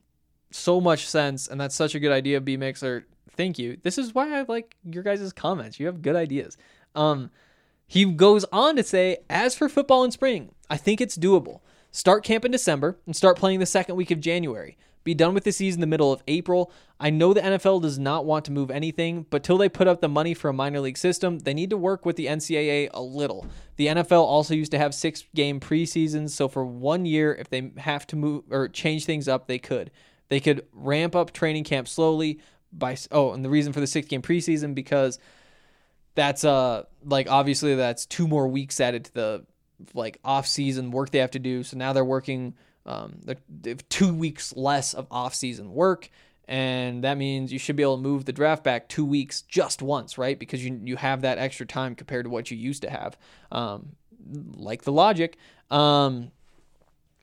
Speaker 6: so much sense, and that's such a good idea, B-Mixer. Thank you. This is why I like your guys' comments. You have good ideas. Um, he goes on to say, as for football in spring, I think it's doable. Start camp in December and start playing the second week of January. Be done with the season the middle of April. I know the N F L does not want to move anything, but till they put up the money for a minor league system, they need to work with the N C double A a little. The N F L also used to have six-game preseasons, so for one year, if they have to move or change things up, they could. They could ramp up training camp slowly by, oh, and the reason for the six-game preseason, because that's, uh like, obviously that's two more weeks added to the, like, off-season work they have to do. So now they're working, um, they have two weeks less of off-season work, and that means you should be able to move the draft back two weeks just once, right? Because you you have that extra time compared to what you used to have, um, like the logic. Um,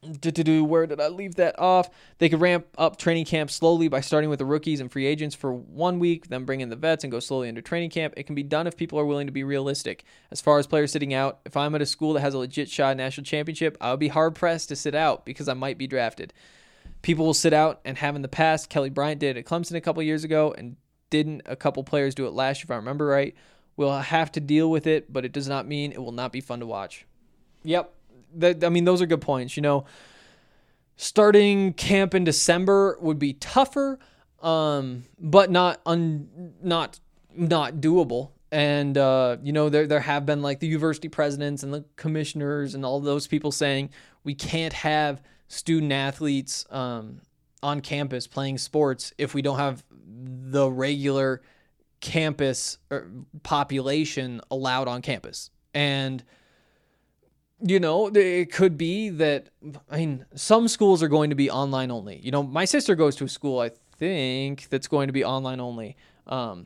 Speaker 6: Where did I leave that off? They could ramp up training camp slowly by starting with the rookies and free agents for one week, then bring in the vets and go slowly into training camp. It can be done if people are willing to be realistic. As far as players sitting out, if I'm at a school that has a legit shot at national championship, I would be hard-pressed to sit out because I might be drafted. People will sit out and have in the past. Kelly Bryant did at Clemson a couple years ago, and didn't a couple players do it last year, if I remember right. We'll have to deal with it, but it does not mean it will not be fun to watch. Yep. That, I mean, those are good points. You know, starting camp in December would be tougher, um, but not un, not not doable. And uh, you know, there there have been like the university presidents and the commissioners and all those people saying we can't have student athletes um, on campus playing sports if we don't have the regular campus population allowed on campus. And you know, it could be that, I mean, some schools are going to be online only. You know, my sister goes to a school, I think, that's going to be online only. Um,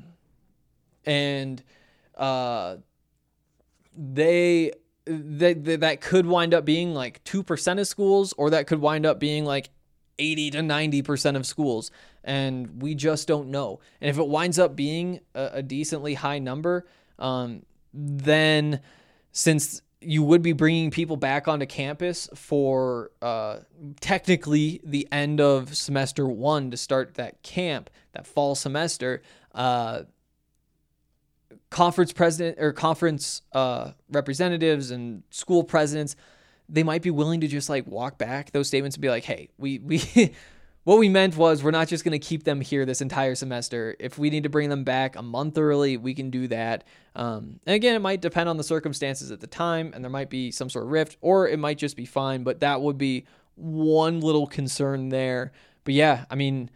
Speaker 6: and uh, they, they, they, that could wind up being like two percent of schools, or that could wind up being like eighty to ninety percent of schools. And we just don't know. And if it winds up being a, a decently high number, um, then since you would be bringing people back onto campus for uh, technically the end of semester one to start that camp, that fall semester, uh, conference president or conference uh, representatives and school presidents, they might be willing to just like walk back those statements and be like, hey, we, we, what we meant was we're not just going to keep them here this entire semester. If we need to bring them back a month early, we can do that. Um, and again, it might depend on the circumstances at the time, and there might be some sort of rift, or it might just be fine, but that would be one little concern there. But yeah, I mean,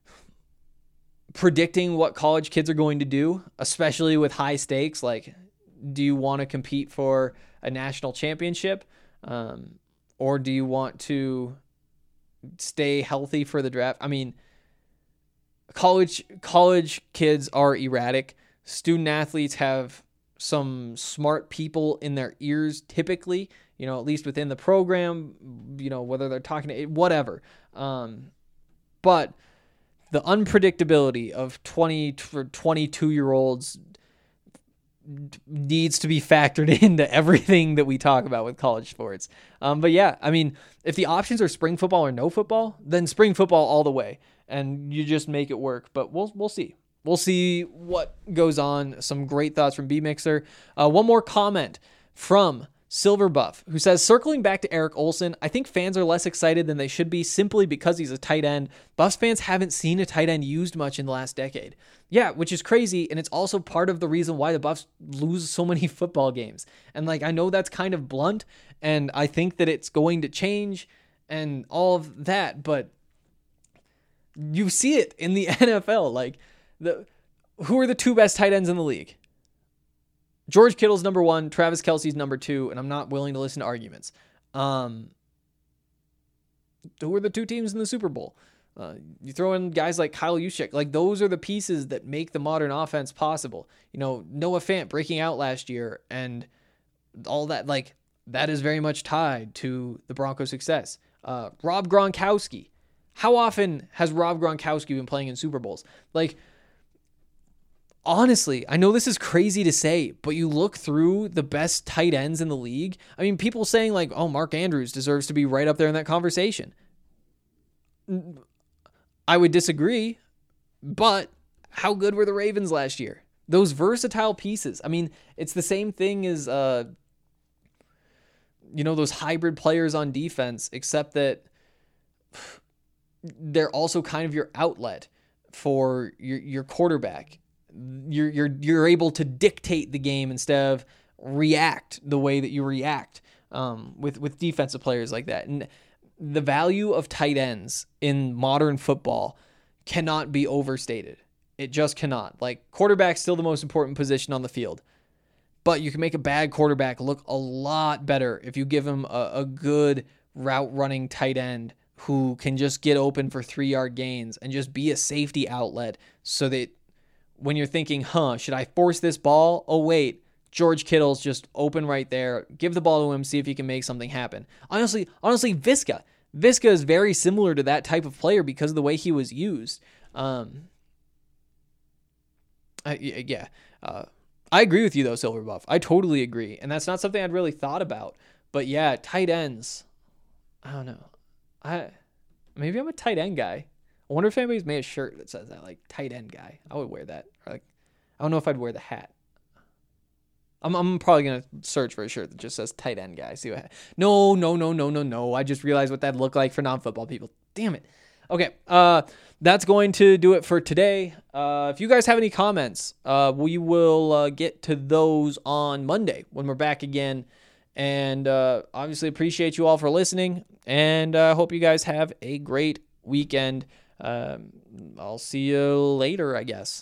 Speaker 6: predicting what college kids are going to do, especially with high stakes, like, do you want to compete for a national championship? Um, or do you want to stay healthy for the draft? I mean, college college kids are erratic. Student athletes have some smart people in their ears typically, you know, at least within the program, you know, whether they're talking to whatever. Um, but the unpredictability of twenty for twenty-two year olds needs to be factored into everything that we talk about with college sports. Um, but yeah, I mean, if the options are spring football or no football, then spring football all the way, and you just make it work. But we'll we'll see. We'll see what goes on. Some great thoughts from B-Mixer. Uh, one more comment from Silver Buff, who says, circling back to Eric Olsen, I think fans are less excited than they should be simply because he's a tight end. Buffs fans haven't seen a tight end used much in the last decade. Yeah, which is crazy, and it's also part of the reason why the Buffs lose so many football games. And like, I know that's kind of blunt, and I think that it's going to change and all of that, but you see it in the N F L. Like, the who are the two best tight ends in the league? George Kittle's number one, Travis Kelce's number two, and I'm not willing to listen to arguments. Um, who are the two teams in the Super Bowl? Uh, you throw in guys like Kyle Juszczyk. Like, those are the pieces that make the modern offense possible. You know, Noah Fant breaking out last year and all that, like, that is very much tied to the Broncos' success. Uh, Rob Gronkowski. How often has Rob Gronkowski been playing in Super Bowls? Like, honestly, I know this is crazy to say, but you look through the best tight ends in the league. I mean, people saying like, oh, Mark Andrews deserves to be right up there in that conversation. I would disagree, but how good were the Ravens last year? Those versatile pieces. I mean, it's the same thing as, uh, you know, those hybrid players on defense, except that they're also kind of your outlet for your, your quarterback. You're you're you're able to dictate the game instead of react the way that you react um, with with defensive players like that. And the value of tight ends in modern football cannot be overstated. It just cannot. Like, quarterback's still the most important position on the field, but you can make a bad quarterback look a lot better if you give him a, a good route running tight end who can just get open for three yard gains and just be a safety outlet, so that when you're thinking, huh, should I force this ball? Oh, wait, George Kittle's just open right there. Give the ball to him, see if he can make something happen. Honestly, honestly, Viska. Viska is very similar to that type of player because of the way he was used. Um, I, yeah. Uh, I agree with you, though, Silver Buff. I totally agree. And that's not something I'd really thought about. But, yeah, tight ends. I don't know. I Maybe I'm a tight end guy. I wonder if anybody's made a shirt that says that, like, tight end guy. I would wear that. Or like, I don't know if I'd wear the hat. I'm I'm probably going to search for a shirt that just says tight end guy. See what? No, no, no, no, no, no. I just realized what that'd look like for non-football people. Damn it. Okay, uh, that's going to do it for today. Uh, if you guys have any comments, uh, we will uh, get to those on Monday when we're back again. And uh, obviously appreciate you all for listening. And I uh, hope you guys have a great weekend. Um, I'll see you later, I guess.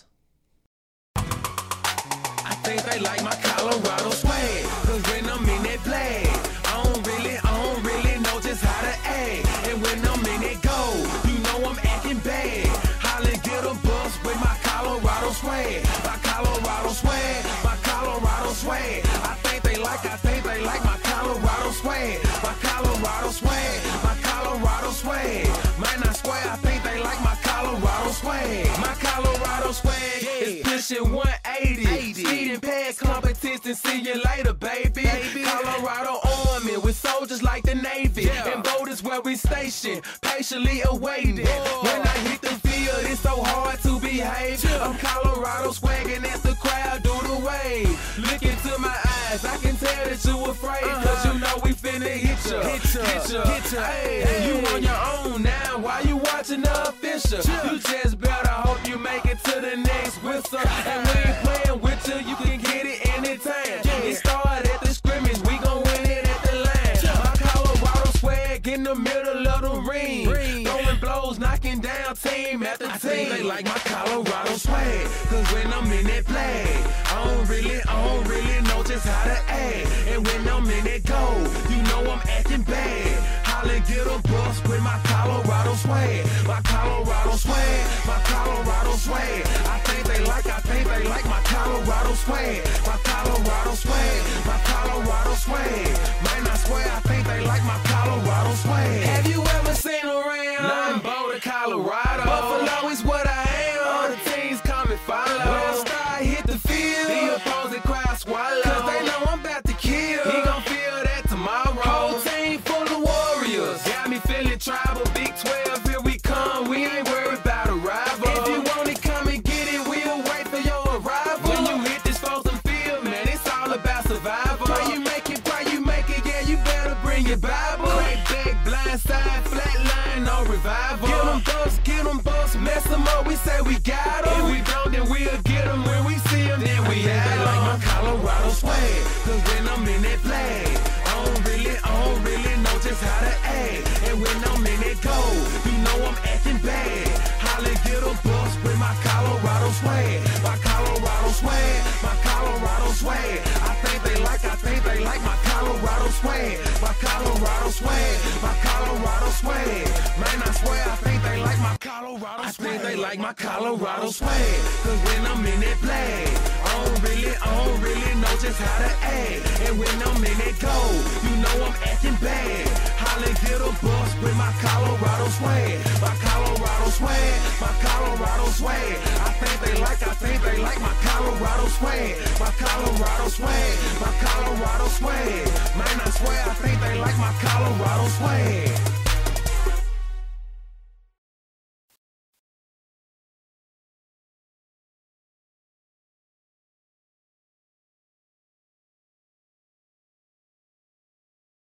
Speaker 5: I think they like my Colorado swag, cause when I'm in that play, I don't really, I don't really know just how to act. And when I'm in that go, you know I'm acting bad. Holla, get a bus with my Colorado swag, my Colorado swag, my Colorado swag. I think they like, I think they like my Colorado swag, my Colorado swag, my Colorado swag. Man, I swear, I think they like my Colorado swag, my Colorado swag is pushing one eighty. Speeding past competition, see you later, baby. baby. Colorado Army with soldiers like the Navy. Yeah. And voters where we station, patiently awaiting. Whoa. When I hit the field, it's so hard to behave. Yeah. I'm Colorado swagging as the crowd do the wave. Look into my eyes, I can tell that you afraid. Uh-huh. Cause you know we finna hit ya. Hit ya, hit ya, hit ya. Hey, hey. You on your own now, why you watching the official? Yeah. You just better hope you make it to the next whistle. And we ain't playing with you, you can get it anytime. Yeah. It started at the scrimmage, we gon' win it at the line. Yeah. My Colorado swag in the middle of the ring. ring. Throwing blows, knocking down team after I team. They like my Colorado swag, cause when I'm in that play, I don't really, I don't really know just how to act. And when I'm in that go, you know I'm acting bad. Holla, get a bus with my Colorado swag, my Colorado swag, my Colorado swag. I think they like, I think they like my Colorado swag, my Colorado swag, my Colorado swag. Man, I swear, I think they like my Colorado swag. Have you ever seen around? Nothing Boulder, Colorado. Buffalo is what I am. All the teams come and follow. When I start hit the field, the opposing crowd swallow. Cause they know I'm about to kill. He gon' feel that tomorrow. Whole team full of warriors. Got me feeling tribal. Big twelve, here we come. We ain't worried about a rival. If you want it, come and get it. We'll wait for your arrival. When you hit this frozen field, man, it's all about survival. Pray you make it, pray you make it. Yeah, you better bring your Bible. Crack back, blind side, flat line, no revival. Get them bucks, get them bucks, mess them up. We say we got them. If we don't, then we'll get them. When we see them, then we have them. Like my Colorado swag, cause when I'm in that flag, I don't really, I don't really know just how to act. And when I'm in that go, you know I'm acting bad. Holla, get a bus with my Colorado swag, my Colorado swag, my Colorado swag. I think they like, I think they like my Colorado swag, my Colorado swag, my Colorado swag. Man, I swear, I think they like my Colorado swag. I think they like my Colorado swag, cause when I'm in that flag, I don't really, I don't really know just how to act. And when I'm in that go, you know I'm acting bad. Holla, get a bus with my Colorado swag, my Colorado swag, my Colorado swag. I think they like, I think they like my Colorado swag, my Colorado swag, my Colorado swag. Man, I swear, I think they like my Colorado swag.